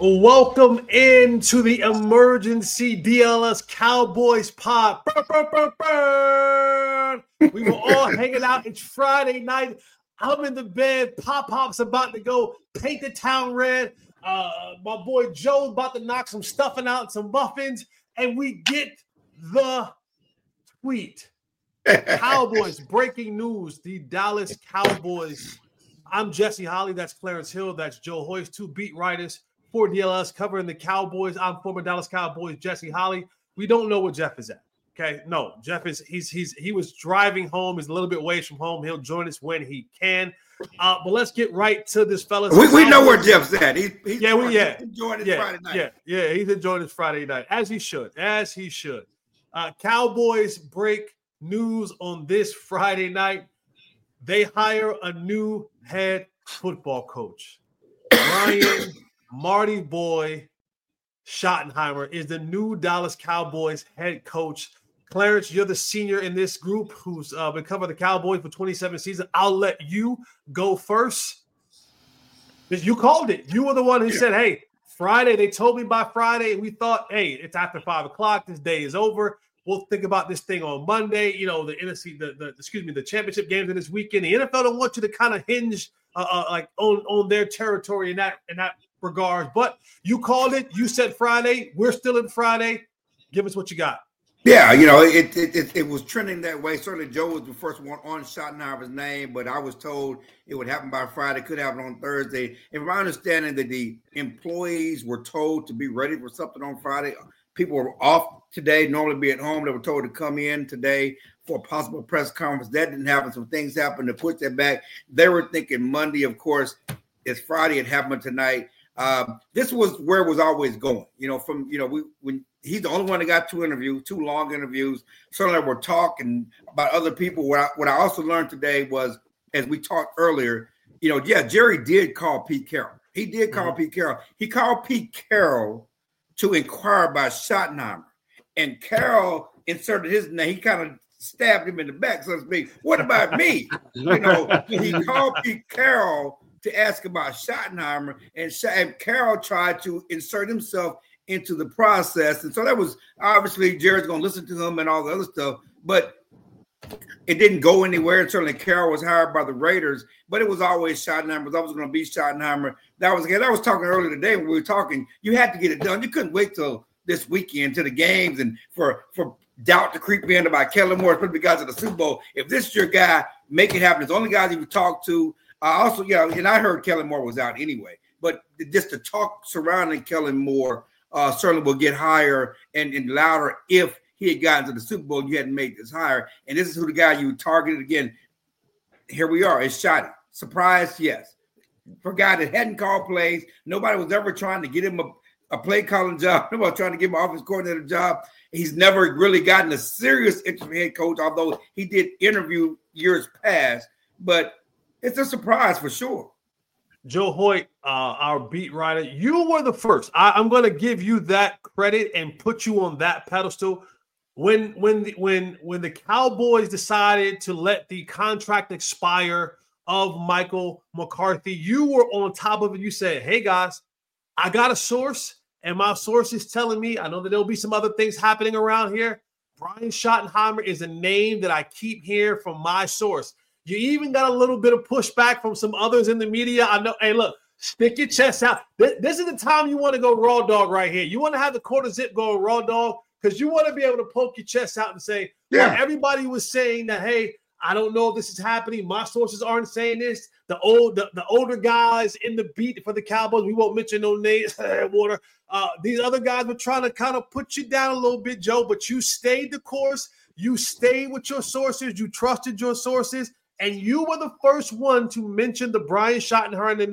Welcome into the emergency DLS Cowboys pod. Burr, burr, burr, burr. We were all hanging out. It's Friday night. I'm in the bed. Pop-Pop's about to go paint the town red. My boy Joe's about to knock some stuffing out, some muffins, and we get the tweet. Cowboys, breaking news. The Dallas Cowboys. I'm Jesse Holly. That's Clarence Hill. That's Joe Hoyce. Two beat writers for DLS covering the Cowboys. I'm former Dallas Cowboys Jesse Holly. We don't know where Jeff is at. Okay, no, Jeff is he was driving home. He's a little bit away from home. He'll join us when he can. But let's get right to this, fellas. We know where Jeff's at. He's enjoying his Friday night. Yeah, he's enjoying his Friday night as he should. Cowboys break news on this Friday night. They hire a new head football coach. Brian Marty Boy Schottenheimer is the new Dallas Cowboys head coach. Clarence, you're the senior in this group who's been covering the Cowboys for 27 seasons. I'll let you go first. You called it. You were the one who said, hey, Friday, they told me by Friday, and we thought, hey, it's after 5 o'clock. This day is over. We'll think about this thing on Monday. You know, the NFC, the championship games in this weekend. The NFL don't want you to kind of hinge like on their territory in that regard. But you called it. You said Friday. We're still in Friday. Give us what you got. Yeah, you know, it was trending that way. Certainly, Joe was the first one on Schottenheimer's name, but I was told it would happen by Friday. Could happen on Thursday. And from my understanding, that the employees were told to be ready for something on Friday. People were off today, normally be at home. They were told to come in today for a possible press conference. That didn't happen. Some things happened to push that back. They were thinking Monday, of course. It's Friday. It happened tonight. This was where it was always going. You know, when he's the only one that got two long interviews. Certainly we're talking about other people. What I also learned today was, as we talked earlier, you know, Jerry did call Pete Carroll. He did call Pete Carroll. He called Pete Carroll to inquire about Schottenheimer. And Carroll inserted his name. He kind of stabbed him in the back, so to speak. What about me? You know, he called Pete Carroll to ask about Schottenheimer, and Carroll tried to insert himself into the process. And so that was obviously Jerry's going to listen to him and all the other stuff, but it didn't go anywhere. And certainly Carroll was hired by the Raiders, but it was always Schottenheimer. It was always going to be Schottenheimer. That was again. I was talking earlier today when we were talking. You had to get it done. You couldn't wait till this weekend to the games and for doubt to creep in about Kellen Moore, especially because of the Super Bowl. If this is your guy, make it happen. It's the only guys you talk to. Also, and I heard Kellen Moore was out anyway, but just the talk surrounding Kellen Moore certainly will get higher and louder if he had gotten to the Super Bowl. You hadn't made this higher. And this is who the guy you targeted again. Here we are. It's Schotty. Surprise, yes. For a guy that hadn't called plays, nobody was ever trying to get him a play calling job. Nobody was trying to give him an offense coordinator job. He's never really gotten a serious interim head coach, although he did interview years past. But it's a surprise for sure. Joe Hoyt, our beat writer, you were the first. I'm going to give you that credit and put you on that pedestal. When the Cowboys decided to let the contract expire of Michael McCarthy, you were on top of it. You said, hey, guys, I got a source, and my source is telling me, I know that there'll be some other things happening around here. Brian Schottenheimer is a name that I keep hearing from my source. You even got a little bit of pushback from some others in the media. I know. Hey, look, stick your chest out. This is the time you want to go raw dog right here. You want to have the quarter zip go raw dog because you want to be able to poke your chest out and say, well, everybody was saying that, hey, I don't know if this is happening. My sources aren't saying this. The older guys in the beat for the Cowboys, we won't mention no names, water. These other guys were trying to kind of put you down a little bit, Joe, but you stayed the course. You stayed with your sources. You trusted your sources. And you were the first one to mention the Brian Schottenheimer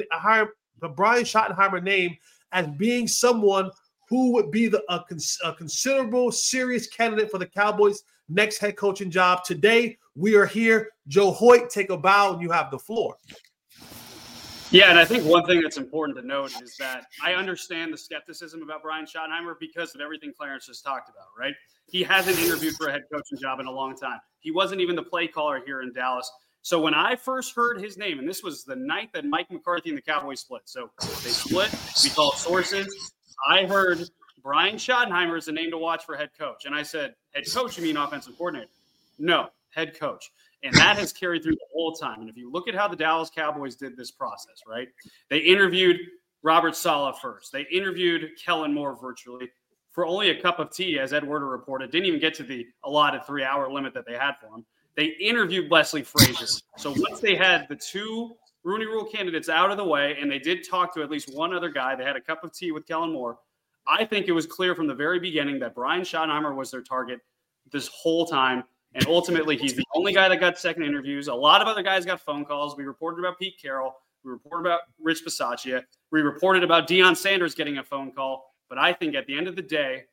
name as being someone who would be a considerable, serious candidate for the Cowboys' next head coaching job. Today, we are here. Joe Hoyt, take a bow, and you have the floor. Yeah, and I think one thing that's important to note is that I understand the skepticism about Brian Schottenheimer because of everything Clarence just talked about, right? He hasn't interviewed for a head coaching job in a long time. He wasn't even the play caller here in Dallas. So when I first heard his name, and this was the night that Mike McCarthy and the Cowboys split. So they split. We call it sources. I heard Brian Schottenheimer is the name to watch for head coach. And I said, head coach, you mean offensive coordinator? No, head coach. And that has carried through the whole time. And if you look at how the Dallas Cowboys did this process, right? They interviewed Robert Saleh first. They interviewed Kellen Moore virtually for only a cup of tea, as Ed Werder reported. Didn't even get to the allotted 3-hour limit that they had for him. They interviewed Leslie Frazier. So once they had the 2 Rooney Rule candidates out of the way, and they did talk to at least one other guy, they had a cup of tea with Kellen Moore. I think it was clear from the very beginning that Brian Schottenheimer was their target this whole time. And ultimately, he's the only guy that got second interviews. A lot of other guys got phone calls. We reported about Pete Carroll. We reported about Rich Bisaccia. We reported about Deion Sanders getting a phone call. But I think at the end of the day,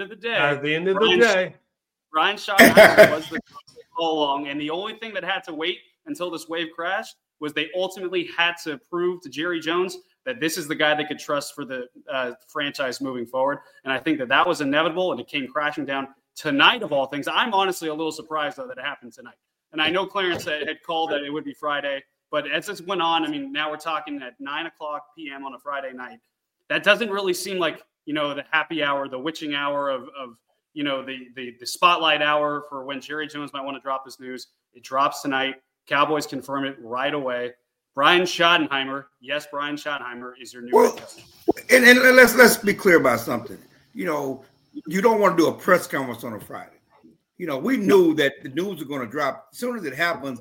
Brian Schottenheimer was the coach all along. And the only thing that had to wait until this wave crashed was they ultimately had to prove to Jerry Jones that this is the guy they could trust for the franchise moving forward. And I think that was inevitable, and it came crashing down tonight of all things. I'm honestly a little surprised, though, that it happened tonight. And I know Clarence had called that it would be Friday, but as this went on, I mean, now we're talking at 9:00 p.m. on a Friday night. That doesn't really seem like, the happy hour, the witching hour of the spotlight hour for when Jerry Jones might want to drop this news. It drops tonight. Cowboys confirm it right away. Brian Schottenheimer, yes, Brian Schottenheimer is your new head coach. And let's be clear about something. You don't want to do a press conference on a Friday. We knew that the news was going to drop. As soon as it happens,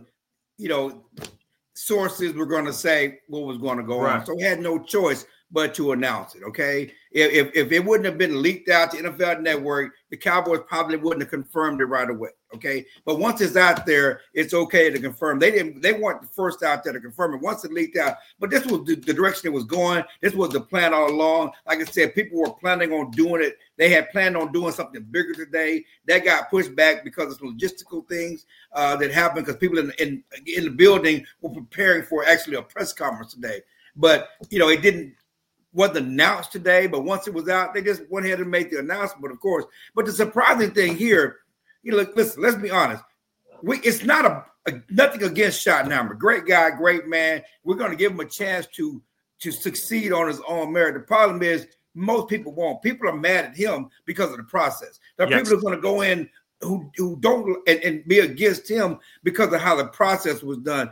sources were going to say what was going to go on. So we had no choice but to announce it, okay? If it wouldn't have been leaked out to NFL Network, the Cowboys probably wouldn't have confirmed it right away, okay? But once it's out there, it's okay to confirm. They weren't the first out there to confirm it. Once it leaked out, but this was the direction it was going. This was the plan all along. Like I said, people were planning on doing it. They had planned on doing something bigger today. That got pushed back because of logistical things that happened because people in the building were preparing for actually a press conference today. But, it wasn't announced today, but once it was out, they just went ahead and made the announcement, of course. But the surprising thing here, listen, let's be honest. It's not nothing against Schottenheimer. Great guy, great man. We're going to give him a chance to succeed on his own merit. The problem is most people won't. People are mad at him because of the process. There are people who are going to go in who don't and be against him because of how the process was done.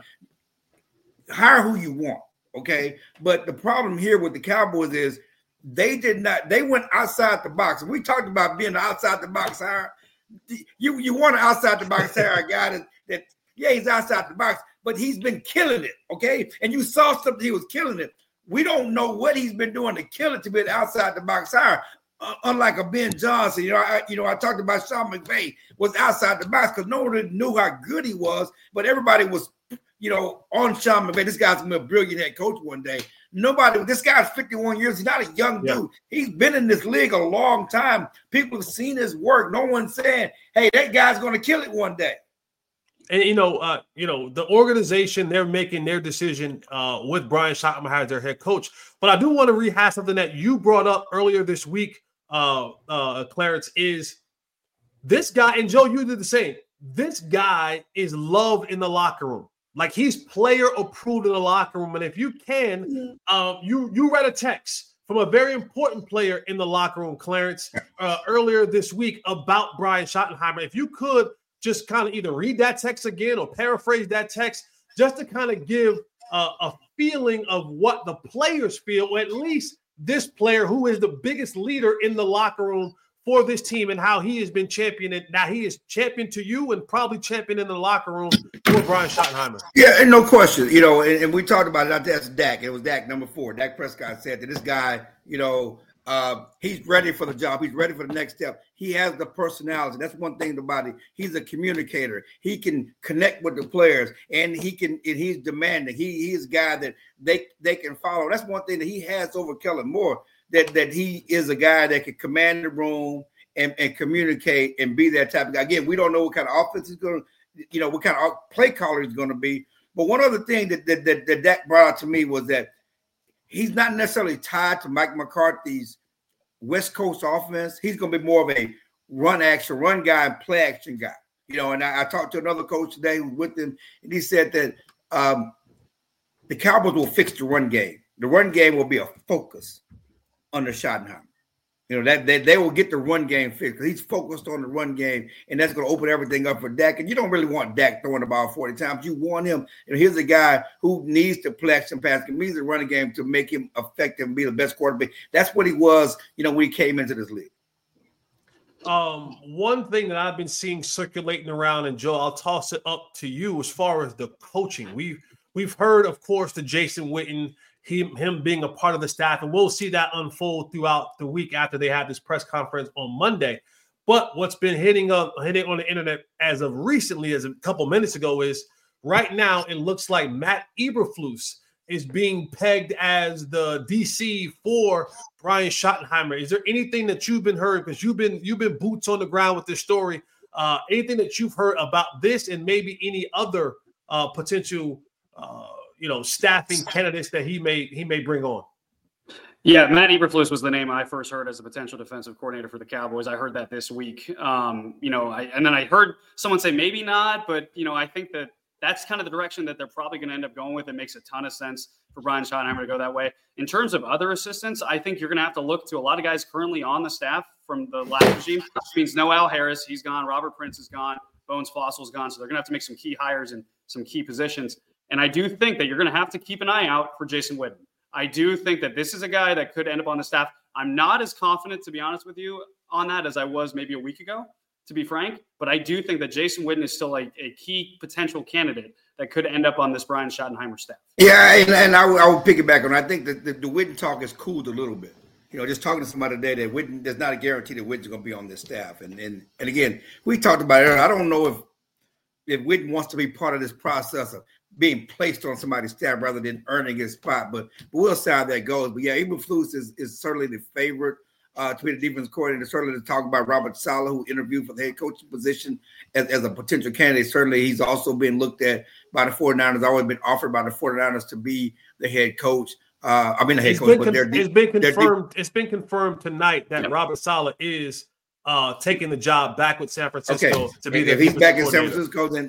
Hire who you want. Okay, but the problem here with the Cowboys is they went outside the box. We talked about being outside the box hire. You want an outside the box hire, a guy that he's outside the box, but he's been killing it, okay? And you saw something, he was killing it. We don't know what he's been doing to kill it to be an outside the box hire. Unlike a Ben Johnson, I talked about Sean McVay was outside the box because no one really knew how good he was, but everybody was on Sean McVay. This guy's going to be a brilliant head coach one day. This guy's 51 years. He's not a young dude. He's been in this league a long time. People have seen his work. No one's saying, hey, that guy's going to kill it one day. And, the organization, they're making their decision with Brian Schottenheimer as their head coach. But I do want to rehash something that you brought up earlier this week, Clarence, is this guy, and Joe, you did the same. This guy is loved in the locker room. Like he's player approved in the locker room. And if you can, you read a text from a very important player in the locker room, Clarence, earlier this week about Brian Schottenheimer. If you could just kind of either read that text again or paraphrase that text just to kind of give a feeling of what the players feel, or at least this player who is the biggest leader in the locker room for this team and how he has been championing. Now he is champion to you and probably champion in the locker room for Brian Schottenheimer. Yeah, and no question. And we talked about it. That's Dak. It was Dak, number 4. Dak Prescott said that this guy, he's ready for the job. He's ready for the next step. He has the personality. That's one thing about it. He's a communicator. He can connect with the players, and he's demanding. He's a guy that they can follow. That's one thing that he has over Kellen Moore. That he is a guy that can command the room and communicate and be that type of guy. Again, we don't know what kind of offense he's going to, what kind of play caller he's going to be. But one other thing that Dak brought out to me was that he's not necessarily tied to Mike McCarthy's West Coast offense. He's going to be more of a run guy and play action guy. And I talked to another coach today who was with them, and he said that the Cowboys will fix the run game. The run game will be a focus under Schottenheimer. That they will get the run game fixed because he's focused on the run game, and that's going to open everything up for Dak. And you don't really want Dak throwing the ball 40 times. You want him. Here's a guy who needs to play action pass, can use the running game to make him effective and be the best quarterback. That's what he was, when he came into this league. One thing that I've been seeing circulating around, and Joe, I'll toss it up to you as far as the coaching. We've heard, of course, the Jason Witten, him being a part of the staff, and we'll see that unfold throughout the week after they have this press conference on Monday. But what's been hitting on the internet as of recently, as a couple minutes ago, is right now it looks like Matt Eberflus is being pegged as the DC for Brian Schottenheimer. Is there anything that you've been heard, because you've been boots on the ground with this story? Anything that you've heard about this, and maybe any other potential staffing candidates that he may bring on? Yeah, Matt Eberflus was the name I first heard as a potential defensive coordinator for the Cowboys. I heard that this week. And then I heard someone say maybe not, but I think that's kind of the direction that they're probably going to end up going with. It makes a ton of sense for Brian Schottenheimer to go that way. In terms of other assistants, I think you're going to have to look to a lot of guys currently on the staff from the last regime, which means no Al Harris. He's gone. Robert Prince is gone. Bones Fossil's gone. So they're going to have to make some key hires in some key positions. And I do think that you're going to have to keep an eye out for Jason Witten. I do think that this is a guy that could end up on the staff. I'm not as confident, to be honest with you, on that as I was maybe a week ago, to be frank. But I do think that Jason Witten is still a key potential candidate that could end up on this Brian Schottenheimer staff. Yeah, and I will piggyback on. I think that the Witten talk has cooled a little bit. Just talking to somebody today that Witten, there's not a guarantee that Witten's going to be on this staff. And again, we talked about it earlier. I don't know if Witten wants to be part of this process of being placed on somebody's staff rather than earning his spot, but we'll see how that goes. But yeah, Eberflus is certainly the favorite to be the defense coordinator. Certainly to talk about Robert Saleh, who interviewed for the head coaching position as a potential candidate. Certainly he's also been looked at by the 49ers, always been offered by the 49ers to be the head coach. The head coach, but it's been confirmed tonight that Robert Saleh is taking the job back with San Francisco to be there. If he's back in San Francisco, then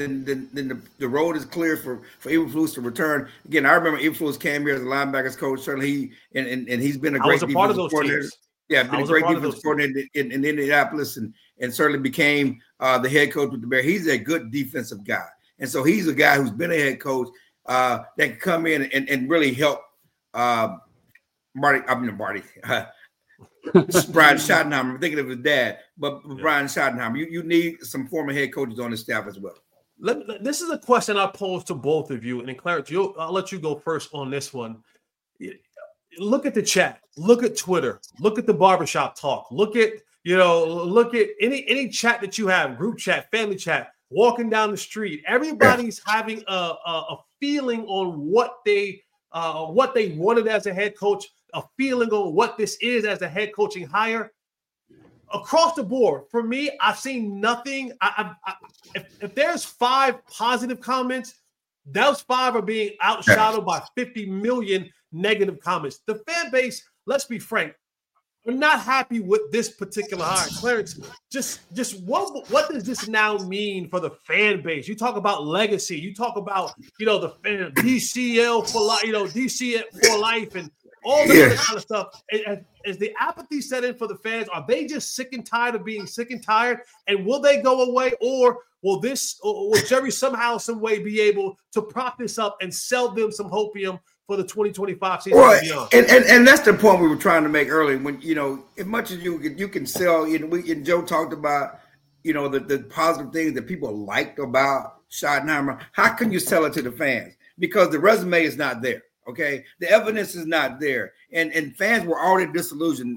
the road is clear for Eberflus to return. Again, I remember Eberflus came here as a linebackers coach. Certainly, and he's been a great defensive coordinator. Teams. Yeah, been a great defensive coordinator in Indianapolis, and certainly became the head coach with the Bears. He's a good defensive guy, and so he's a guy who's been a head coach that can come in and really help Brian Schottenheimer. I'm thinking of his dad, but Brian Schottenheimer. You need some former head coaches on the staff as well. This is a question I pose to both of you, and Clarence, I'll let you go first on this one. Look at the chat. Look at Twitter. Look at the barbershop talk. Look at any chat that you have, group chat, family chat, walking down the street. Everybody's having a feeling on what they wanted as a head coach, a feeling on what this is as a head coaching hire. Across the board, for me, I've seen nothing. If there's 5 positive comments, those 5 are being outshadowed by 50 million negative comments. The fan base, let's be frank, are not happy with this particular hire. Clarence, just what does this now mean for the fan base? You talk about legacy. You talk about the fan DCL for life, DC for life, and all this other kind of stuff. Is the apathy set in for the fans? Are they just sick and tired of being sick and tired? And will they go away, or will Jerry somehow, some way be able to prop this up and sell them some hopium for the 2025 season? Well, and that's the point we were trying to make earlier. When as much as you can sell, and Joe talked about the positive things that people liked about Schottenheimer. How can you sell it to the fans? Because the resume is not there. Okay, the evidence is not there, and fans were already disillusioned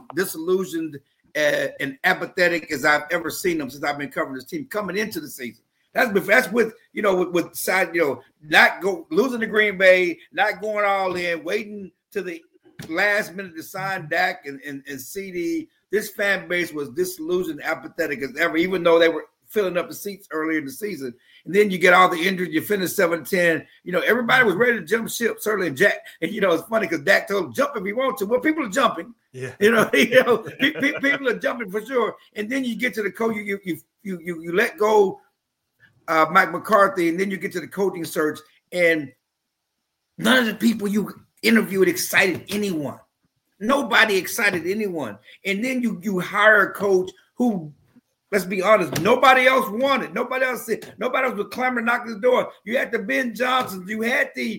and apathetic as I've ever seen them since I've been covering this team coming into the season. That's with side losing to Green Bay, not going all in, waiting to the last minute to sign Dak and CD. This fan base was disillusioned, apathetic as ever, even though they were filling up the seats earlier in the season. And then you get all the injuries, you finish 7-10. Everybody was ready to jump ship, certainly Jack. And it's funny because Dak told him, jump if you want to. Well, people are jumping. Yeah. People are jumping for sure. And then you get to the coach, you let go Mike McCarthy, and then you get to the coaching search, and none of the people you interviewed excited anyone. Nobody excited anyone. And then you hire a coach who, let's be honest, nobody else wanted. Nobody else was clamoring, knocking the door. You had the Ben Johnsons. You had the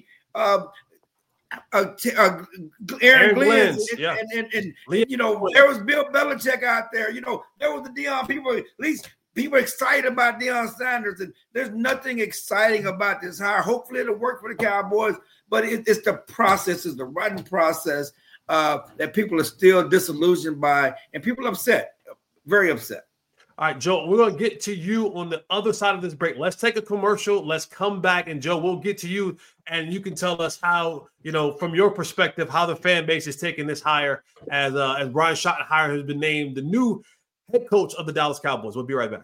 Aaron Glenn. Yeah. And you know, there was Bill Belichick out there. You know, there was the Deion people. At least people are excited about Deion Sanders. And there's nothing exciting about this hire. Hopefully it'll work for the Cowboys. But it's the process, it's the writing process that people are still disillusioned by. And people are upset, very upset. All right, Joe, we're going to get to you on the other side of this break. Let's take a commercial. Let's come back. And, Joe, we'll get to you, and you can tell us how, you know, from your perspective, how the fan base is taking this hire as Brian Schottenheimer has been named the new head coach of the Dallas Cowboys. We'll be right back.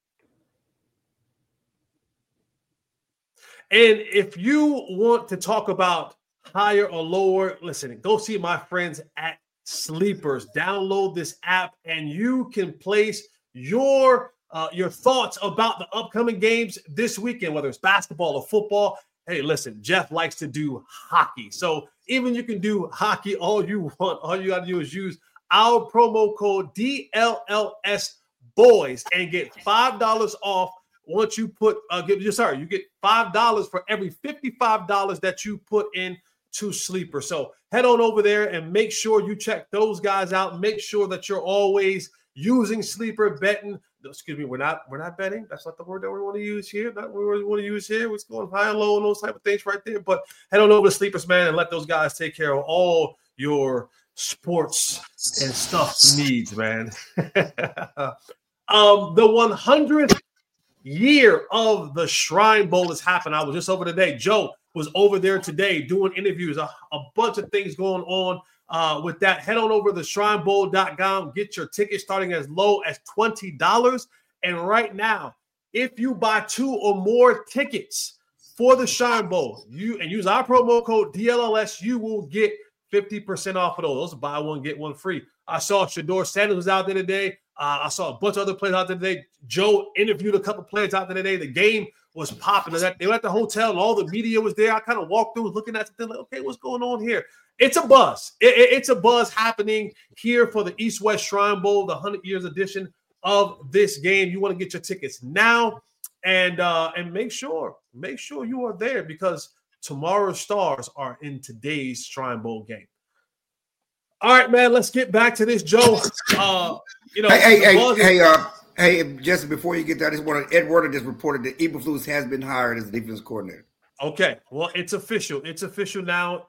And if you want to talk about higher or lower, listen, go see my friends at Sleepers. Download this app, and you can place your thoughts about the upcoming games this weekend, whether it's basketball or football. Hey, listen, Jeff likes to do hockey. So even you can do hockey all you want. All you got to do is use our promo code DLLS Boys and get $5 off once you put you get $5 for every $55 that you put in to Sleeper. So head on over there and make sure you check those guys out. Make sure that you're always using Sleeper betting. Excuse me, we're not betting. That's not the word that we want to use here. Not what we want to use here. What's going high and low and those type of things right there. But head on over to Sleepers, man, and let those guys take care of all your sports and stuff needs, man. The 100th year of the Shrine Bowl has happened. I was just over today. Joe was over there today doing interviews, a bunch of things going on with that. Head on over to shrinebowl.com. Get your ticket starting as low as $20. And right now, if you buy 2 or more tickets for the Shrine Bowl, and use our promo code DLLS, you will get 50% off of those. Buy one, get one free. I saw Shedeur Sanders was out there today. I saw a bunch of other players out there today. Joe interviewed a couple players out there today. The game was popping. They were at the hotel and all the media was there. I kind of walked through looking at something like, okay, what's going on here? It's a buzz. It's a buzz happening here for the East-West Shrine Bowl, the 100 years edition of this game. You want to get your tickets now and make sure you are there because tomorrow's stars are in today's Shrine Bowl game. All right, man, let's get back to this, Joe. Hey, Jesse, before you get that, I just wanted Ed Werder just reported that Eberflus has been hired as defense coordinator. Okay, well, it's official. It's official now.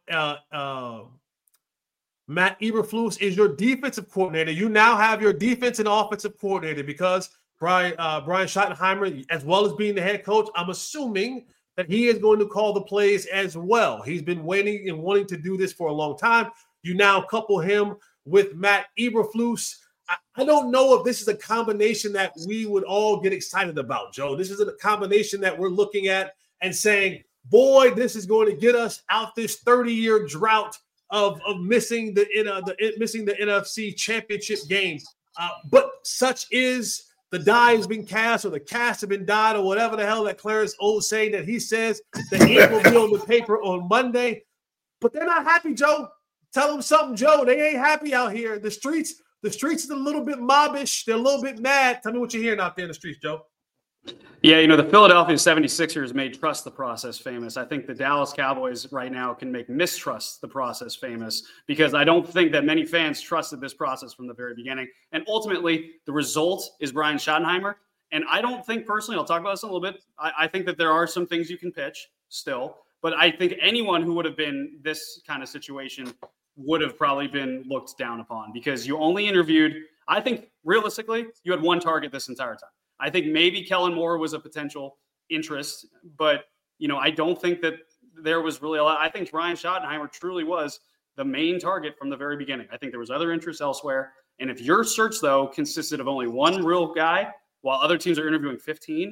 Matt Eberflus is your defensive coordinator. You now have your defense and offensive coordinator because Brian Schottenheimer, as well as being the head coach, I'm assuming that he is going to call the plays as well. He's been waiting and wanting to do this for a long time. You now couple him with Matt Eberflus. I don't know if this is a combination that we would all get excited about, Joe. This is a combination that we're looking at and saying, boy, this is going to get us out this 30-year drought of missing the NFC Championship game. But such is the die has been cast or the cast have been died or whatever the hell that Clarence O's saying that he says the ink will be on the paper on Monday. But they're not happy, Joe. Tell them something, Joe. They ain't happy out here. The streets is a little bit mobbish. They're a little bit mad. Tell me what you're hearing out there in the streets, Joe. Yeah, the Philadelphia 76ers made trust the process famous. I think the Dallas Cowboys right now can make mistrust the process famous because I don't think that many fans trusted this process from the very beginning. And ultimately, the result is Brian Schottenheimer. And I don't think personally, I'll talk about this in a little bit. I think that there are some things you can pitch still. But I think anyone who would have been this kind of situation would have probably been looked down upon because you only interviewed, I think realistically, you had one target this entire time. I think maybe Kellen Moore was a potential interest, but, I don't think that there was really a lot. I think Brian Schottenheimer truly was the main target from the very beginning. I think there was other interests elsewhere. And if your search, though, consisted of only one real guy while other teams are interviewing 15,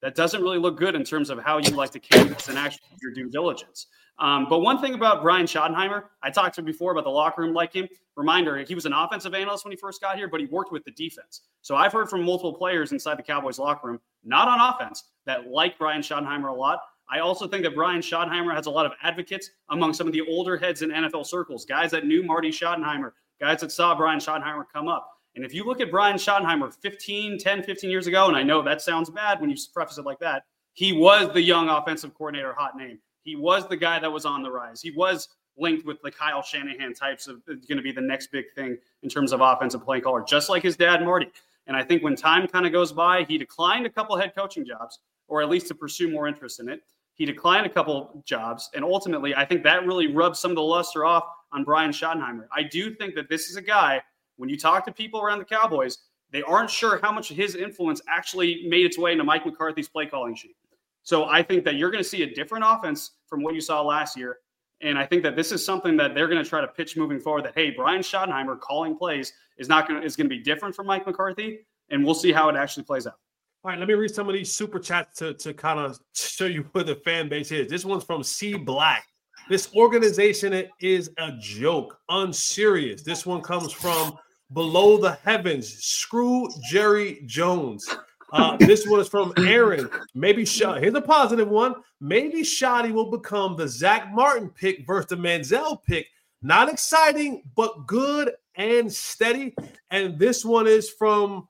that doesn't really look good in terms of how you like to canvas and actually do your due diligence. But one thing about Brian Schottenheimer, I talked to him before about the locker room like him. Reminder, he was an offensive analyst when he first got here, but he worked with the defense. So I've heard from multiple players inside the Cowboys locker room, not on offense, that like Brian Schottenheimer a lot. I also think that Brian Schottenheimer has a lot of advocates among some of the older heads in NFL circles, guys that knew Marty Schottenheimer, guys that saw Brian Schottenheimer come up. And if you look at Brian Schottenheimer 15 years ago, and I know that sounds bad when you preface it like that, he was the young offensive coordinator hot name. He was the guy that was on the rise. He was linked with the Kyle Shanahan types of going to be the next big thing in terms of offensive play caller, just like his dad, Marty. And I think when time kind of goes by, he declined a couple head coaching jobs, or at least to pursue more interest in it. He declined a couple jobs. And ultimately, I think that really rubs some of the luster off on Brian Schottenheimer. I do think that this is a guy, when you talk to people around the Cowboys, they aren't sure how much of his influence actually made its way into Mike McCarthy's play calling sheet. So I think that you're going to see a different offense from what you saw last year. And I think that this is something that they're going to try to pitch moving forward, that, hey, Brian Schottenheimer calling plays is going to be different from Mike McCarthy, and we'll see how it actually plays out. All right, let me read some of these super chats to kind of show you where the fan base is. This one's from C Black. This organization is a joke, unserious. This one comes from Below the Heavens. Screw Jerry Jones. This one is from Aaron. Here's a positive one. Maybe Shoddy will become the Zach Martin pick versus the Manziel pick. Not exciting, but good and steady. And this one is from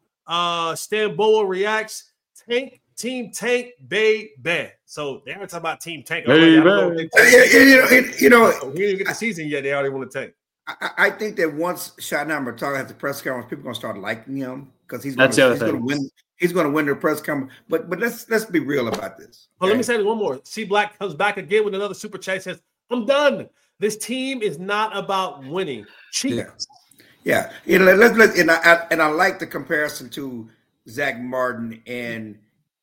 Stamboa Reacts. Team Tank, baby. So they aren't talking about Team Tank. You know, we didn't even get the season yet. They already want to tank. I think that once Schottenheimer talks at the press conference, people are going to start liking him because he's going to win. He's going to win the press conference. But let's be real about this. Well, let me say one more. C Black comes back again with another super chat. Says, "I'm done. This team is not about winning. Cheat." Yeah. You know, and I like the comparison to Zach Martin and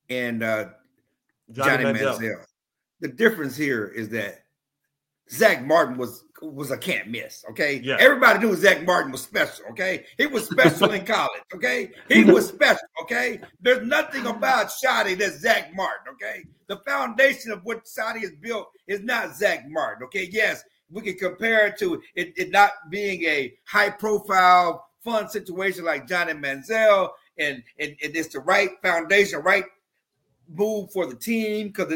Johnny Manziel. The difference here is that Zach Martin was a can't miss, okay? Yeah. Everybody knew Zach Martin was special, okay? He was special in college, okay? He was special, okay? There's nothing about Shoddy that's Zach Martin, okay? The foundation of what Shoddy has built is not Zach Martin, okay? Yes, we can compare it to it not being a high-profile, fun situation like Johnny Manziel, and it's the right foundation, right move for the team because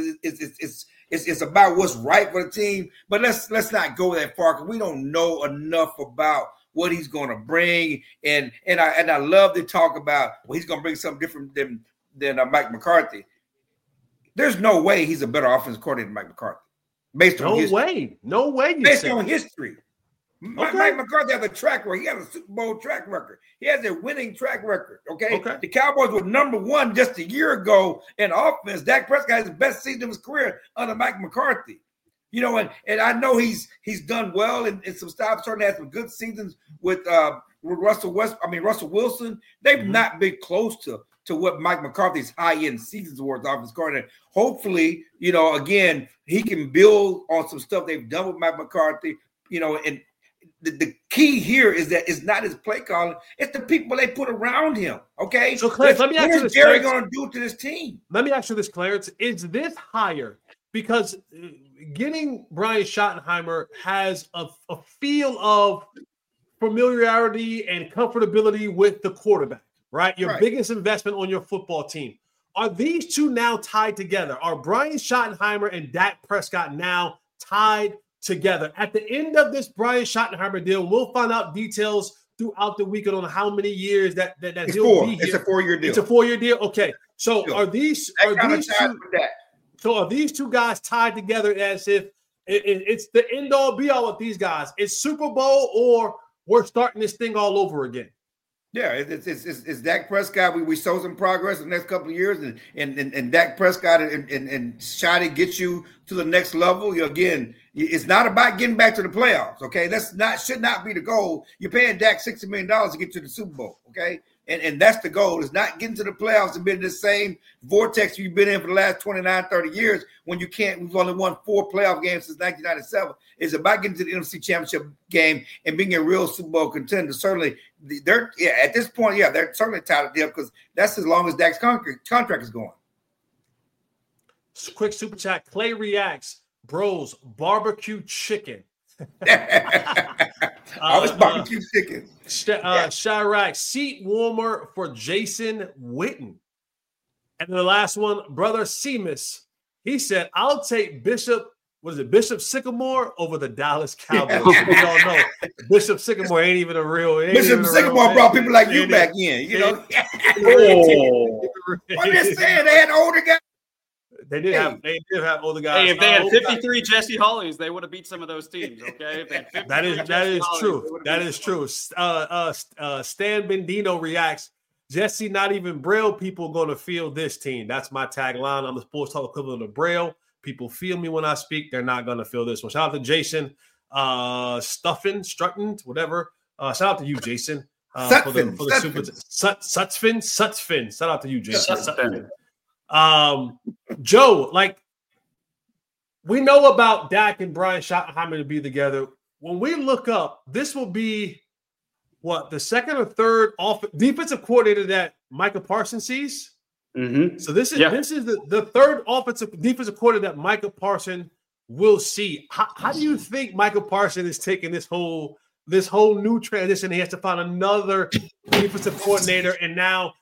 it's about what's right for the team. But let's not go that far because we don't know enough about what he's going to bring. And I love to talk about he's going to bring something different than Mike McCarthy. There's no way he's a better offensive coordinator than Mike McCarthy. Based on history. No way. Based on history. Okay. Mike McCarthy has a track record. He has a Super Bowl track record. He has a winning track record. Okay. The Cowboys were number one just a year ago in offense. Dak Prescott has the best season of his career under Mike McCarthy. You know, and I know he's done well in some stops. Certainly had some good seasons with Russell Wilson. They've not been close to what Mike McCarthy's high-end seasons were as offensive coordinator. Hopefully, you know, again, he can build on some stuff they've done with Mike McCarthy. You know, and the key here is that it's not his play calling; it's the people they put around him. Okay, so Clarence, let me ask you this: what is Jerry going to do to this team? Let me ask you this, Clarence: is this higher because getting Brian Schottenheimer has a feel of familiarity and comfortability with the quarterback, right? Your biggest investment on your football team. Are these two now tied together? Are Brian Schottenheimer and Dak Prescott now tied together? At the end of this Brian Schottenheimer deal, we'll find out details throughout the weekend on how many years that he'll be here. It's a 4-year deal. It's a 4-year deal. Okay. So are these two guys tied together as if it's the end all be all with these guys? It's Super Bowl or we're starting this thing all over again? Yeah, it's Dak Prescott. We saw some progress in the next couple of years, and Dak Prescott and Shoddy get you to the next level. Again, it's not about getting back to the playoffs. Okay, should not be the goal. You're paying Dak $60 million to get to the Super Bowl. Okay, and that's the goal. It's not getting to the playoffs and being in the same vortex you've been in for the last 29, 30 years when you can't. We've only won 4 playoff games since 1997. It's about getting to the NFC Championship game and being a real Super Bowl contender. Certainly, at this point, they're certainly tied to deal because that's as long as Dak's contract is going. Quick super chat. Clay reacts. Bros, barbecue chicken. I was barbecue chicken. Chirac, seat warmer for Jason Witten. And then the last one, brother Seamus. He said, I'll take Bishop Sycamore over the Dallas Cowboys. We all know Bishop Sycamore ain't even a real. Bishop Sycamore brought people like you back in, you know. I'm just saying they had older guys. They did have older guys. Hey, if they had 53 Jesse Hollies, they would have beat some of those teams. Okay, if they had that is true. That is true. Stan Bendino reacts. Jesse, not even Braille people going to feel this team. That's my tagline. I'm the sports talk equivalent of Braille. People feel me when I speak. They're not going to feel this one. Shout out to Jason Strutton, whatever. Shout out to you, Jason. Sutsfin. Shout out to you, Jason. Joe, like, we know about Dak and Brian Schottenheimer to be together. When we look up, this will be the second or third defensive coordinator that Micah Parsons sees. Mm-hmm. So this is the third defensive coordinator that Micah Parsons will see. How do you think Micah Parsons is taking this whole new transition? He has to find another defensive coordinator, and now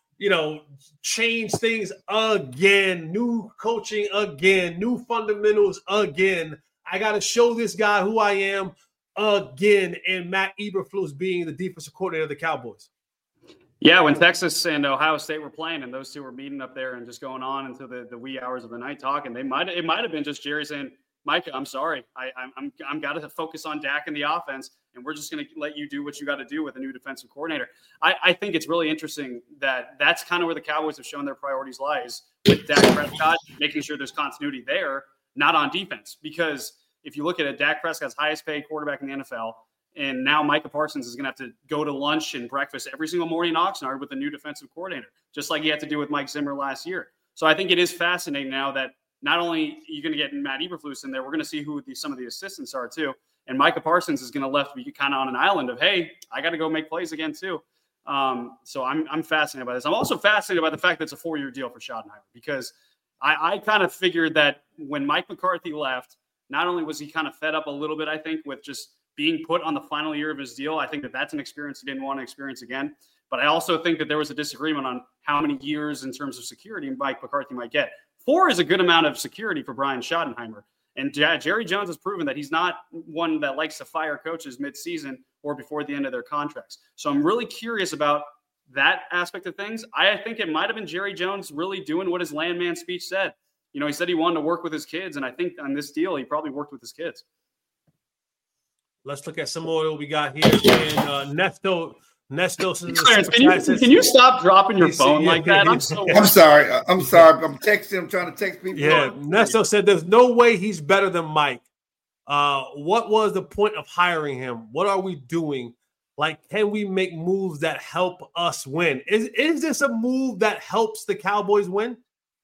change things again, new coaching again, new fundamentals again. I got to show this guy who I am again, and Matt Eberflus being the defensive coordinator of the Cowboys. Yeah, when Texas and Ohio State were playing, and those two were meeting up there and just going on into the wee hours of the night talking, it might have been just Jerry saying, Mike, I'm sorry. I'm got to focus on Dak and the offense, and we're just going to let you do what you got to do with a new defensive coordinator. I think it's really interesting that that's kind of where the Cowboys have shown their priorities lies with Dak Prescott, making sure there's continuity there, not on defense. Because if you look at it, Dak Prescott's highest paid quarterback in the NFL, and now Micah Parsons is going to have to go to lunch and breakfast every single morning in Oxnard with a new defensive coordinator, just like he had to do with Mike Zimmer last year. So I think it is fascinating now that not only are you going to get Matt Eberflus in there, we're going to see who some of the assistants are too. And Micah Parsons is going to left be kind of on an island of, hey, I got to go make plays again too. So I'm fascinated by this. I'm also fascinated by the fact that it's a 4-year deal for Schottenheimer, because I kind of figured that when Mike McCarthy left, not only was he kind of fed up a little bit, I think, with just being put on the final year of his deal. I think that that's an experience he didn't want to experience again. But I also think that there was a disagreement on how many years in terms of security Mike McCarthy might get. 4 is a good amount of security for Brian Schottenheimer. And Jerry Jones has proven that he's not one that likes to fire coaches mid-season or before the end of their contracts. So I'm really curious about that aspect of things. I think it might have been Jerry Jones really doing what his landman speech said. He said he wanted to work with his kids, and I think on this deal, he probably worked with his kids. Let's look at some more that we got here. And Nesto Clarence, can you stop dropping your phone like that? I'm sorry. I'm texting. I'm trying to text people. Yeah, Nesto said there's no way he's better than Mike. What was the point of hiring him? What are we doing? Like, can we make moves that help us win? Is this a move that helps the Cowboys win?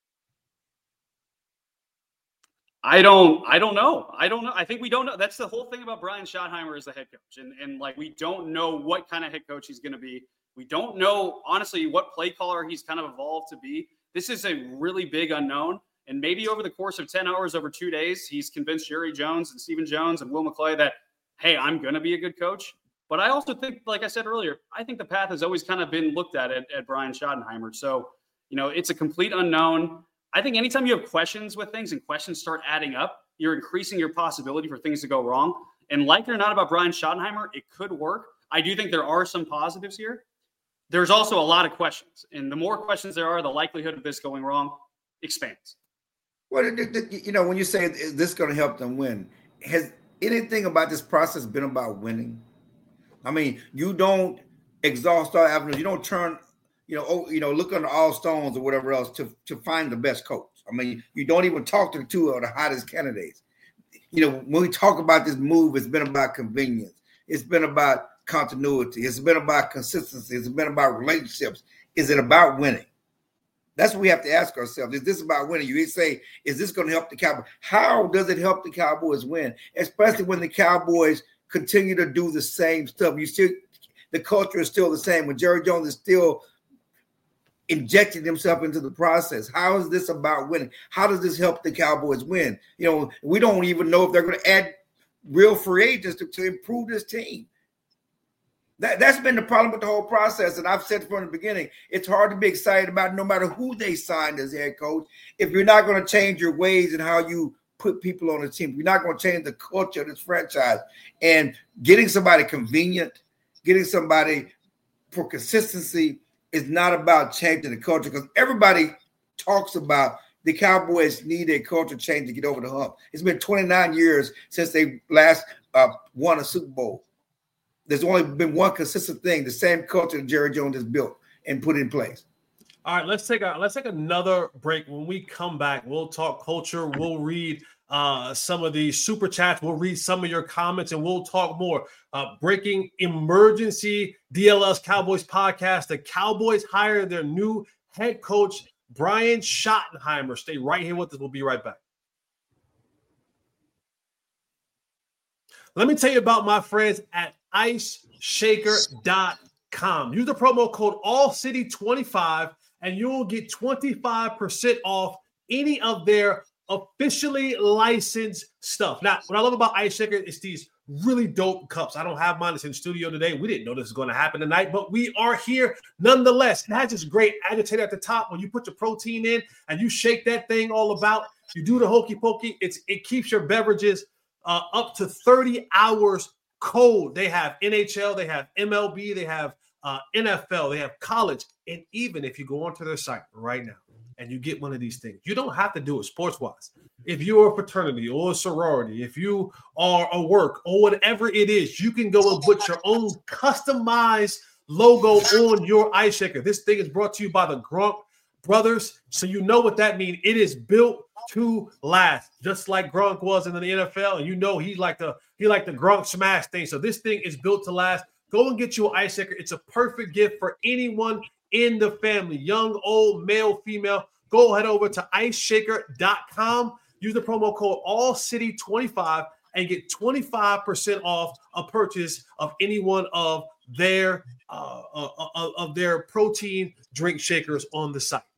I don't know. I think we don't know. That's the whole thing about Brian Schottenheimer as the head coach. And like, we don't know what kind of head coach he's going to be. We don't know, honestly, what play caller he's kind of evolved to be. This is a really big unknown. And maybe over the course of 10 hours, over 2 days, he's convinced Jerry Jones and Stephen Jones and Will McClay that, hey, I'm going to be a good coach. But I also think, like I said earlier, I think the path has always kind of been looked at Brian Schottenheimer. So, it's a complete unknown. I think anytime you have questions with things and questions start adding up, you're increasing your possibility for things to go wrong. And like it or not about Brian Schottenheimer, it could work. I do think there are some positives here. There's also a lot of questions. And the more questions there are, the likelihood of this going wrong expands. Well, when you say, is this going to help them win? Has anything about this process been about winning? I mean, you don't exhaust all avenues. You don't turn look under all stones or whatever else to find the best coach. I mean, you don't even talk to two of the hottest candidates. When we talk about this move, it's been about convenience. It's been about continuity. It's been about consistency. It's been about relationships. Is it about winning? That's what we have to ask ourselves. Is this about winning? You say, is this going to help the Cowboys? How does it help the Cowboys win? Especially when the Cowboys continue to do the same stuff. The culture is still the same. When Jerry Jones is still injecting themselves into the process. How is this about winning? How does this help the Cowboys win? You know, we don't even know if they're going to add real free agents to improve this team. That's been the problem with the whole process. And I've said from the beginning, it's hard to be excited about no matter who they signed as head coach if you're not going to change your ways and how you put people on the team. You're not going to change the culture of this franchise. And getting somebody convenient, getting somebody for consistency is not about changing the culture, because everybody talks about the Cowboys need a culture change to get over the hump. It's been 29 years since they last won a Super Bowl. There's only been one consistent thing, the same culture that Jerry Jones has built and put in place. All right, let's take another break. When we come back, we'll talk culture. We'll read some of the super chats. We'll read some of your comments, and we'll talk more. Breaking emergency DLS Cowboys podcast. The Cowboys hire their new head coach, Brian Schottenheimer. Stay right here with us. We'll be right back. Let me tell you about my friends at IceShaker.com. Use the promo code AllCity25 and you will get 25% off any of their officially licensed stuff. Now, what I love about Ice Shaker is these really dope cups. I don't have mine. It's in the studio today. We didn't know this was going to happen tonight, but we are here nonetheless. It has this great agitator at the top. When you put your protein in and you shake that thing all about, you do the hokey pokey. It keeps your beverages up to 30 hours cold. They have NHL, they have MLB, they have NFL, they have college. And even if you go onto their site right now and you get one of these things, you don't have to do it sports-wise. If you're a fraternity or a sorority, if you are a work or whatever it is, you can go and put your own customized logo on your Ice Shaker. This thing is brought to you by the Gronk brothers, so you know what that means. It is built to last, just like Gronk was in the NFL, and you know he liked the Gronk smash thing. So this thing is built to last. Go and get you an Ice Shaker. It's a perfect gift for anyone in the family, young, old, male, female. Go head over to IceShaker.com. Use the promo code AllCity25 and get 25% off a purchase of any one of their protein drink shakers on the site.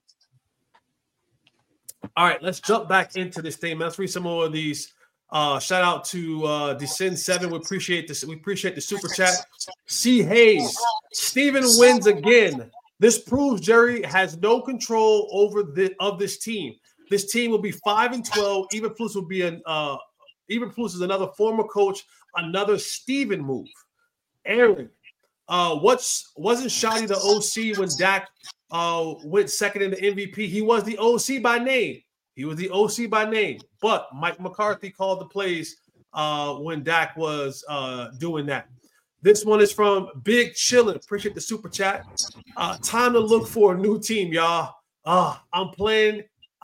All right, let's jump back into this thing. Let's read some more of these. Shout out to Descend7. We appreciate this. We appreciate the super chat. C. Hayes. Steven wins again. This proves Jerry has no control over this team. This team will be 5-12. Eberflus will be Eberflus is another former coach. Another Steven move. Aaron. Wasn't Shotty the OC when Dak went second in the MVP? He was the OC by name. But Mike McCarthy called the plays when Dak was doing that. This one is from Big Chillin'. Appreciate the super chat. Time to look for a new team, y'all. I'm playing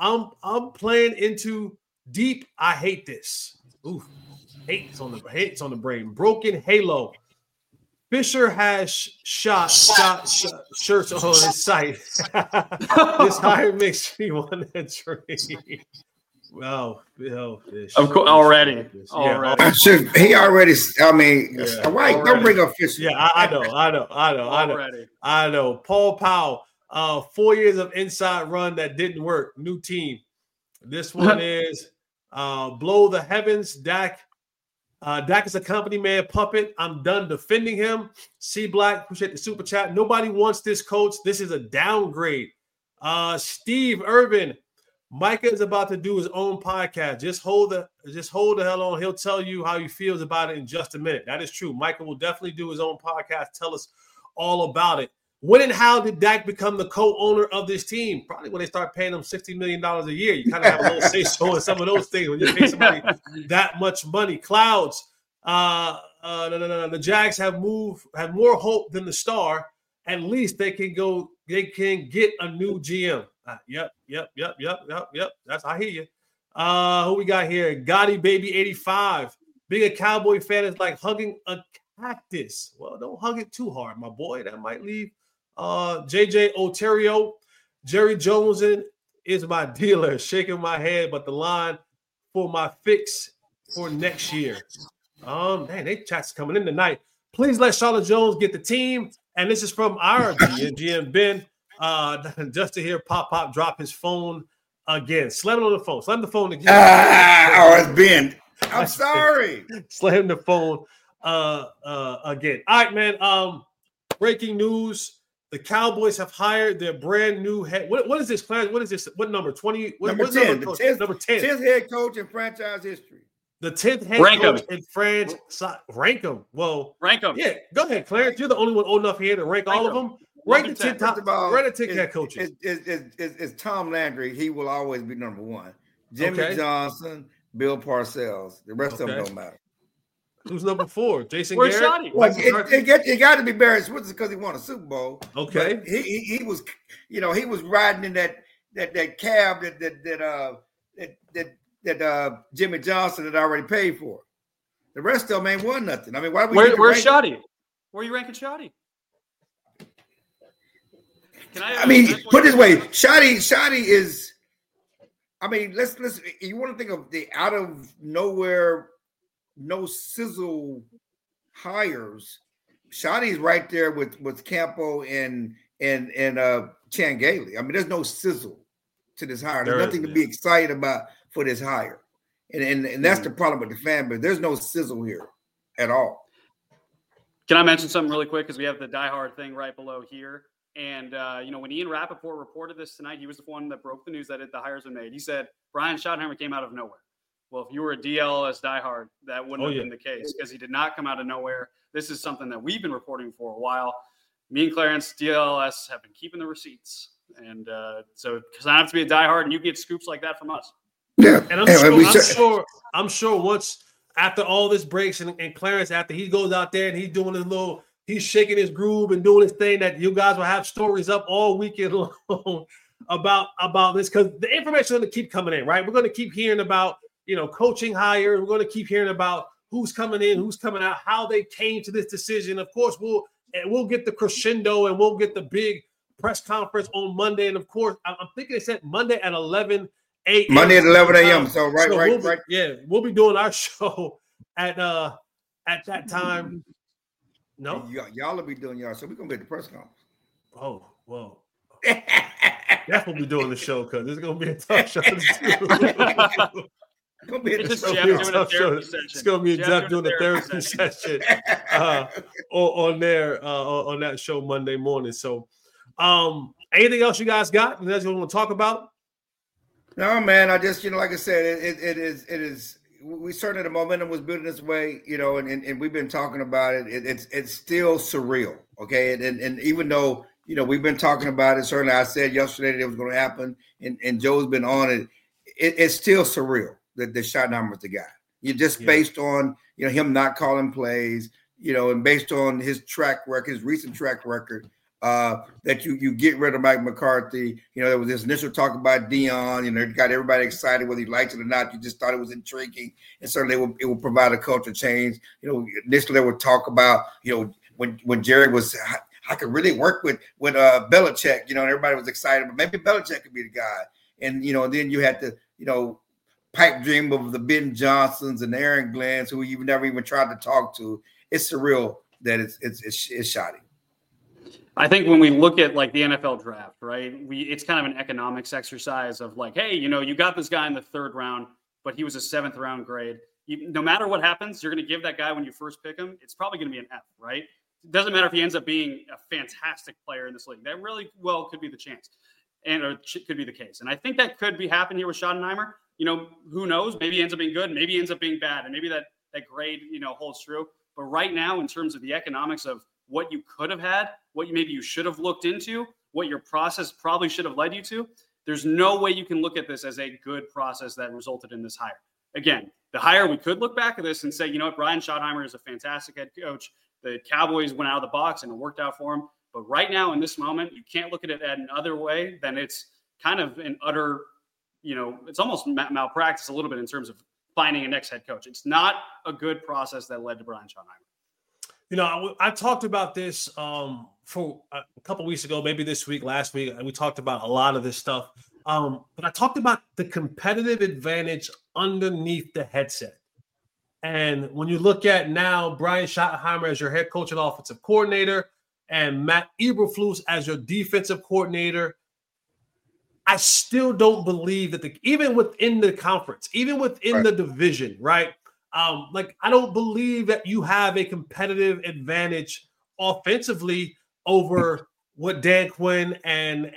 into deep. I hate this. Ooh, hate's on the brain. Broken Halo. Fisher has shot shirts on his site. This hire makes me want to trade. Wow, Fish. Of course, already. He already. I mean, yeah, why don't bring up Fisher? Yeah, I know. Paul Powell. 4 years of inside run that didn't work. New team. This one is blow the heavens. Dak is a company man puppet. I'm done defending him. C Black, appreciate the super chat. Nobody wants this coach. This is a downgrade. Steve Irvin, Micah is about to do his own podcast. Just hold the hell on. He'll tell you how he feels about it in just a minute. That is true. Micah will definitely do his own podcast. Tell us all about it. When and how did Dak become the co-owner of this team? Probably when they start paying him $60 million a year. You kind of have a little say-so in some of those things when you pay somebody that much money. Clouds. The Jags have more hope than the Star. At least they can get a new GM. Yep. That's I hear you. Who we got here? Gotti Baby 85. Being a Cowboy fan is like hugging a cactus. Well, don't hug it too hard, my boy. That might leave. JJ Oterio. Jerry Jones is my dealer. Shaking my head, but the line for my fix for next year. They chats coming in tonight. Please let Charlotte Jones get the team. And this is from our GM Ben. Just to hear Pop drop his phone again. Slam it on the phone. Slam the phone again. It's Ben. I'm sorry. Slam the phone again. All right, man. Breaking news. The Cowboys have hired their brand new head. What is this, Clarence? What is this? What number? 20? Number 10. Number 10. Number 10. 10th head coach in franchise history. The 10th head coach in franchise. Rank them. Well, rank them. Yeah, go ahead, Clarence. You're the only one old enough here to rank all of them. Rank the 10 top. Rank the 10 head coaches. It's Tom Landry. He will always be number one. Jimmy Johnson, Bill Parcells. The rest of them don't matter. Who's number 4? Jason Where's Garrett? Well, it got to be Barry Switzer because he won a Super Bowl. Okay. But he was, he was riding in that cab that Jimmy Johnson had already paid for. The rest of them ain't won nothing. I mean, why? Where's Shoddy? Where are you ranking Shoddy? Put it this way, Shoddy is. I mean, let's. You want to think of the out of nowhere, no sizzle hires. Shoddy's right there with Campo and Chan Gailey. I mean, there's no sizzle to this hire. There's nothing to be excited about for this hire, and that's the problem with the fan base. There's no sizzle here at all. Can I mention something really quick because we have the Die Hard thing right below here. And, when Ian Rappaport reported this tonight, he was the one that broke the news that the hires were made. He said Brian Schottenheimer came out of nowhere. Well, if you were a DLS diehard, that wouldn't have been the case because he did not come out of nowhere. This is something that we've been reporting for a while. Me and Clarence, DLS, have been keeping the receipts. And so because I have to be a diehard and you get scoops like that from us. Yeah. And I'm sure once after all this breaks and Clarence, after he goes out there and he's doing his he's shaking his groove and doing his thing, that you guys will have stories up all weekend long about this because the information is going to keep coming in, right? We're going to keep hearing about, coaching hires. We're going to keep hearing about who's coming in, who's coming out, how they came to this decision. Of course, we'll get the crescendo and we'll get the big press conference on Monday. And of course, I'm thinking they said Monday at 11 a.m. Monday at 11 a.m. So right. Yeah, we'll be doing our show at that time. No, y'all will be doing y'all, so we're gonna be at the press conference. Oh, well, Jeff will be doing the show because it's gonna be a tough show. It's gonna be a tough show. It's gonna be Jeff doing a therapy session on that show Monday morning. So, anything else you guys got? Anything else you want to talk about? No, man. I just, like I said, it is. We certainly the momentum was building this way, and we've been talking about it. It's still surreal, okay. And even though we've been talking about it, certainly I said yesterday that it was going to happen, and Joe's been on it. It's still surreal that Schottenheimer was the guy. Based on him not calling plays, and based on his track record, his recent track record. That you get rid of Mike McCarthy. There was this initial talk about Dion. It got everybody excited whether he liked it or not. You just thought it was intriguing, and certainly it will provide a culture change. Initially they would talk about when Jerry was, I could really work with Belichick. And everybody was excited, but maybe Belichick could be the guy. And then you had to pipe dream of the Ben Johnsons and Aaron Glenns, who you've never even tried to talk to. It's surreal that it's shoddy. I think when we look at like the NFL draft, right, it's kind of an economics exercise of like, hey, you got this guy in the 3rd round, but he was a 7th round grade. No matter what happens, you're going to give that guy when you first pick him. It's probably going to be an F, right? It doesn't matter if he ends up being a fantastic player in this league. That really could be the chance, or could be the case. And I think that could be happening here with Schottenheimer. Who knows? Maybe he ends up being good. Maybe he ends up being bad, and maybe that grade holds true. But right now, in terms of the economics of what you could have had, what maybe you should have looked into, what your process probably should have led you to, there's no way you can look at this as a good process that resulted in this hire. Again, the hire, we could look back at this and say, Brian Schottenheimer is a fantastic head coach. The Cowboys went out of the box and it worked out for him. But right now, in this moment, you can't look at it another way than it's kind of an utter, it's almost malpractice a little bit in terms of finding a next head coach. It's not a good process that led to Brian Schottenheimer. I talked about this for a couple weeks ago, maybe this week, last week, and we talked about a lot of this stuff. But I talked about the competitive advantage underneath the headset. And when you look at now Brian Schottenheimer as your head coach and offensive coordinator, and Matt Eberflus as your defensive coordinator, I still don't believe that even within the conference, even within the division, right? I don't believe that you have a competitive advantage offensively over what Dan Quinn and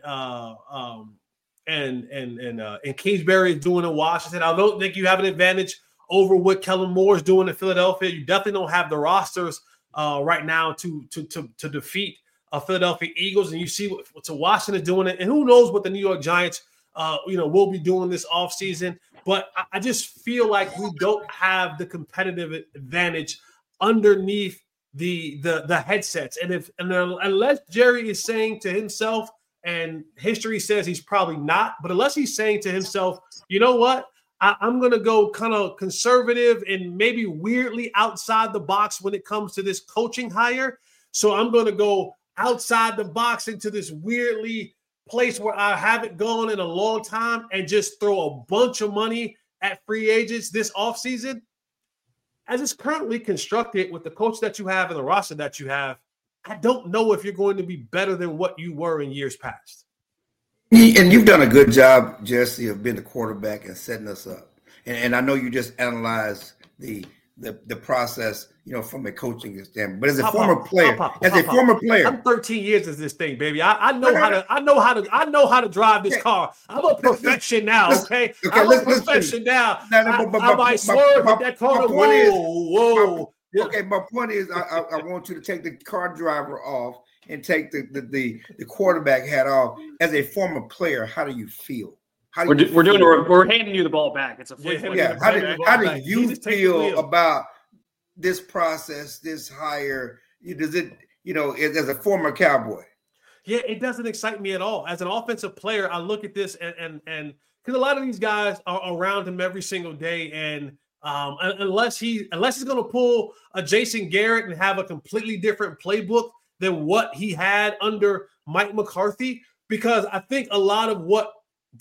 Kingsbury is doing in Washington. I don't think you have an advantage over what Kellen Moore is doing in Philadelphia. You definitely don't have the rosters right now to defeat Philadelphia Eagles, and you see what Washington is doing it, and who knows what the New York Giants will be doing this offseason. But I just feel like we don't have the competitive advantage underneath the headsets. And unless Jerry is saying to himself, and history says he's probably not, but unless he's saying to himself, you know what, I'm going to go kind of conservative and maybe weirdly outside the box when it comes to this coaching hire. So I'm going to go outside the box into this weirdly place where I haven't gone in a long time and just throw a bunch of money at free agents this offseason. As it's currently constructed with the coach that you have and the roster that you have, I don't know if you're going to be better than what you were in years past. And you've done a good job, Jesse, of being the quarterback and setting us up. And I know you just analyzed the process, from a coaching standpoint. But as a former player, I'm 13 years in this thing, baby. I know how to drive this car. I'm a perfection now. Okay, I'm a perfection now. I might swerve at that corner. Whoa. Okay, my point is, I want you to take the car driver off and take the quarterback hat off. As a former player, how do you feel? We're handing you the ball back. It's a flip. How do you feel about this process, this hire? Does it, as a former Cowboy? Yeah, it doesn't excite me at all. As an offensive player, I look at this and because a lot of these guys are around him every single day, and unless he's going to pull a Jason Garrett and have a completely different playbook than what he had under Mike McCarthy, because I think a lot of what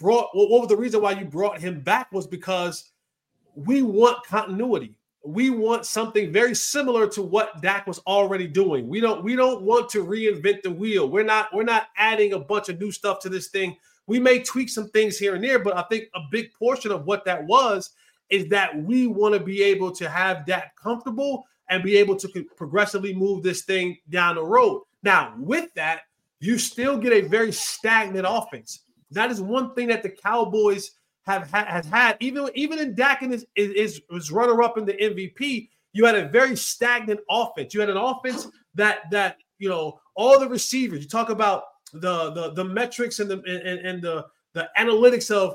was the reason why you brought him back was because we want continuity. We want something very similar to what Dak was already doing. We don't want to reinvent the wheel. We're not adding a bunch of new stuff to this thing. We may tweak some things here and there, but I think a big portion of what that was is that we want to be able to have Dak comfortable and be able to progressively move this thing down the road. Now, with that, you still get a very stagnant offense. That is one thing that the Cowboys has had. Even in Dak and his runner-up in the MVP, you had a very stagnant offense. You had an offense that all the receivers. You talk about the metrics and the analytics of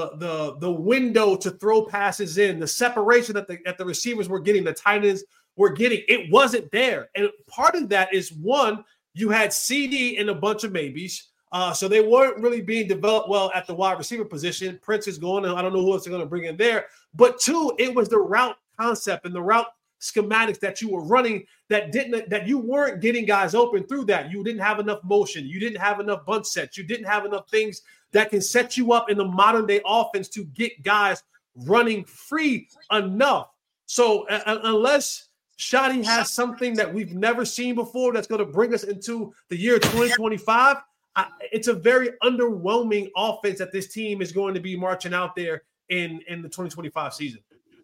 the window to throw passes in, the separation that the receivers were getting, the tight ends were getting. It wasn't there, and part of that is one, you had CD and a bunch of maybes. So they weren't really being developed well at the wide receiver position. Prince is going, and I don't know who else they're going to bring in there. But two, it was the route concept and the route schematics that you were running that you weren't getting guys open through that. You didn't have enough motion. You didn't have enough bunch sets. You didn't have enough things that can set you up in the modern day offense to get guys running free enough. So unless Shotty has something that we've never seen before that's going to bring us into the year 2025, it's a very underwhelming offense that this team is going to be marching out there in the 2025 season.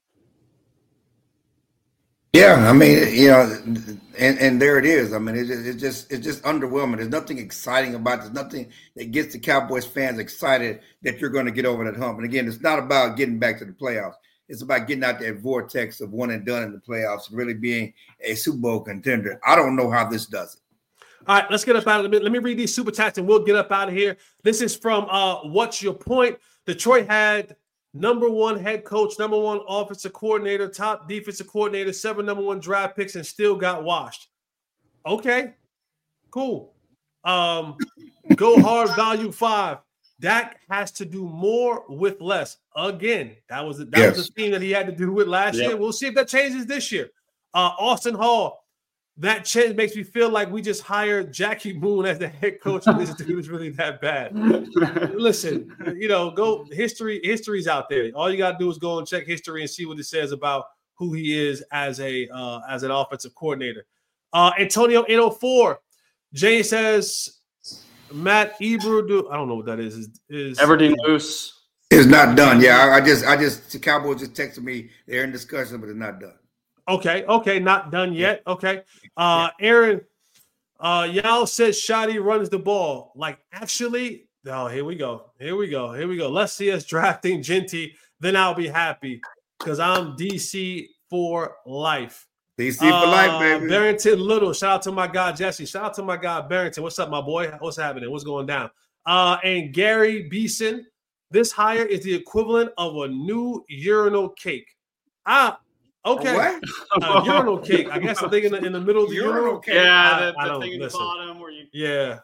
Yeah, I mean, and there it is. I mean, it's just underwhelming. There's nothing exciting about it. There's nothing that gets the Cowboys fans excited that you're going to get over that hump. And again, it's not about getting back to the playoffs. It's about getting out that vortex of one and done in the playoffs and really being a Super Bowl contender. I don't know how this does it. All right, let's get up out of it. Let me read these super chats and we'll get up out of here. This is from What's Your Point? Detroit had number one head coach, number one offensive coordinator, top defensive coordinator, 7 number one draft picks, and still got washed. Okay, cool. Go hard, value 5. Dak has to do more with less. Again, that was the theme that he had to do with last year. We'll see if that changes this year. Austin Hall. That change makes me feel like we just hired Jackie Moon as the head coach, and this dude is really that bad. Listen, go history's out there. All you gotta do is go and check history and see what it says about who he is as an offensive coordinator. Antonio 804. Jane says Matt Ebro. I don't know what that is. Is Everdeen Loose. It's not done. Yeah, I just the Cowboys just texted me. They're in discussion, but it's not done. Okay, not done yet. Okay. Aaron, Yao says Shotty runs the ball. Like, actually, here we go. Let's see us drafting Genty. Then I'll be happy because I'm DC for life. DC for life, baby. Barrington Little. Shout out to my guy, Jesse. Shout out to my guy, Barrington. What's up, my boy? What's happening? What's going down? And Gary Beeson. This hire is the equivalent of a new urinal cake. Okay. What? Urinal cake. I guess I'm thinking in the middle of the urinal cake. Yeah, the thing in the bottom where you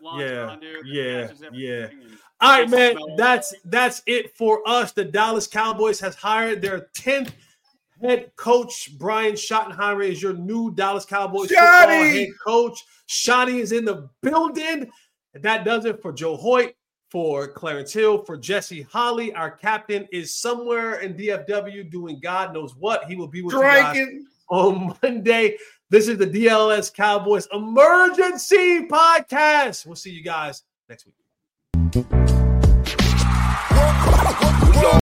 All right, man. That's it for us. The Dallas Cowboys has hired their 10th head coach. Brian Schottenheimer is your new Dallas Cowboys football head coach. Shotty is in the building. And that does it for Joe Hoyt, for Clarence Hill, for Jesse Holly. Our captain is somewhere in DFW doing God knows what. He will be with you guys on Monday. This is the DLS Cowboys Emergency Podcast. We'll see you guys next week.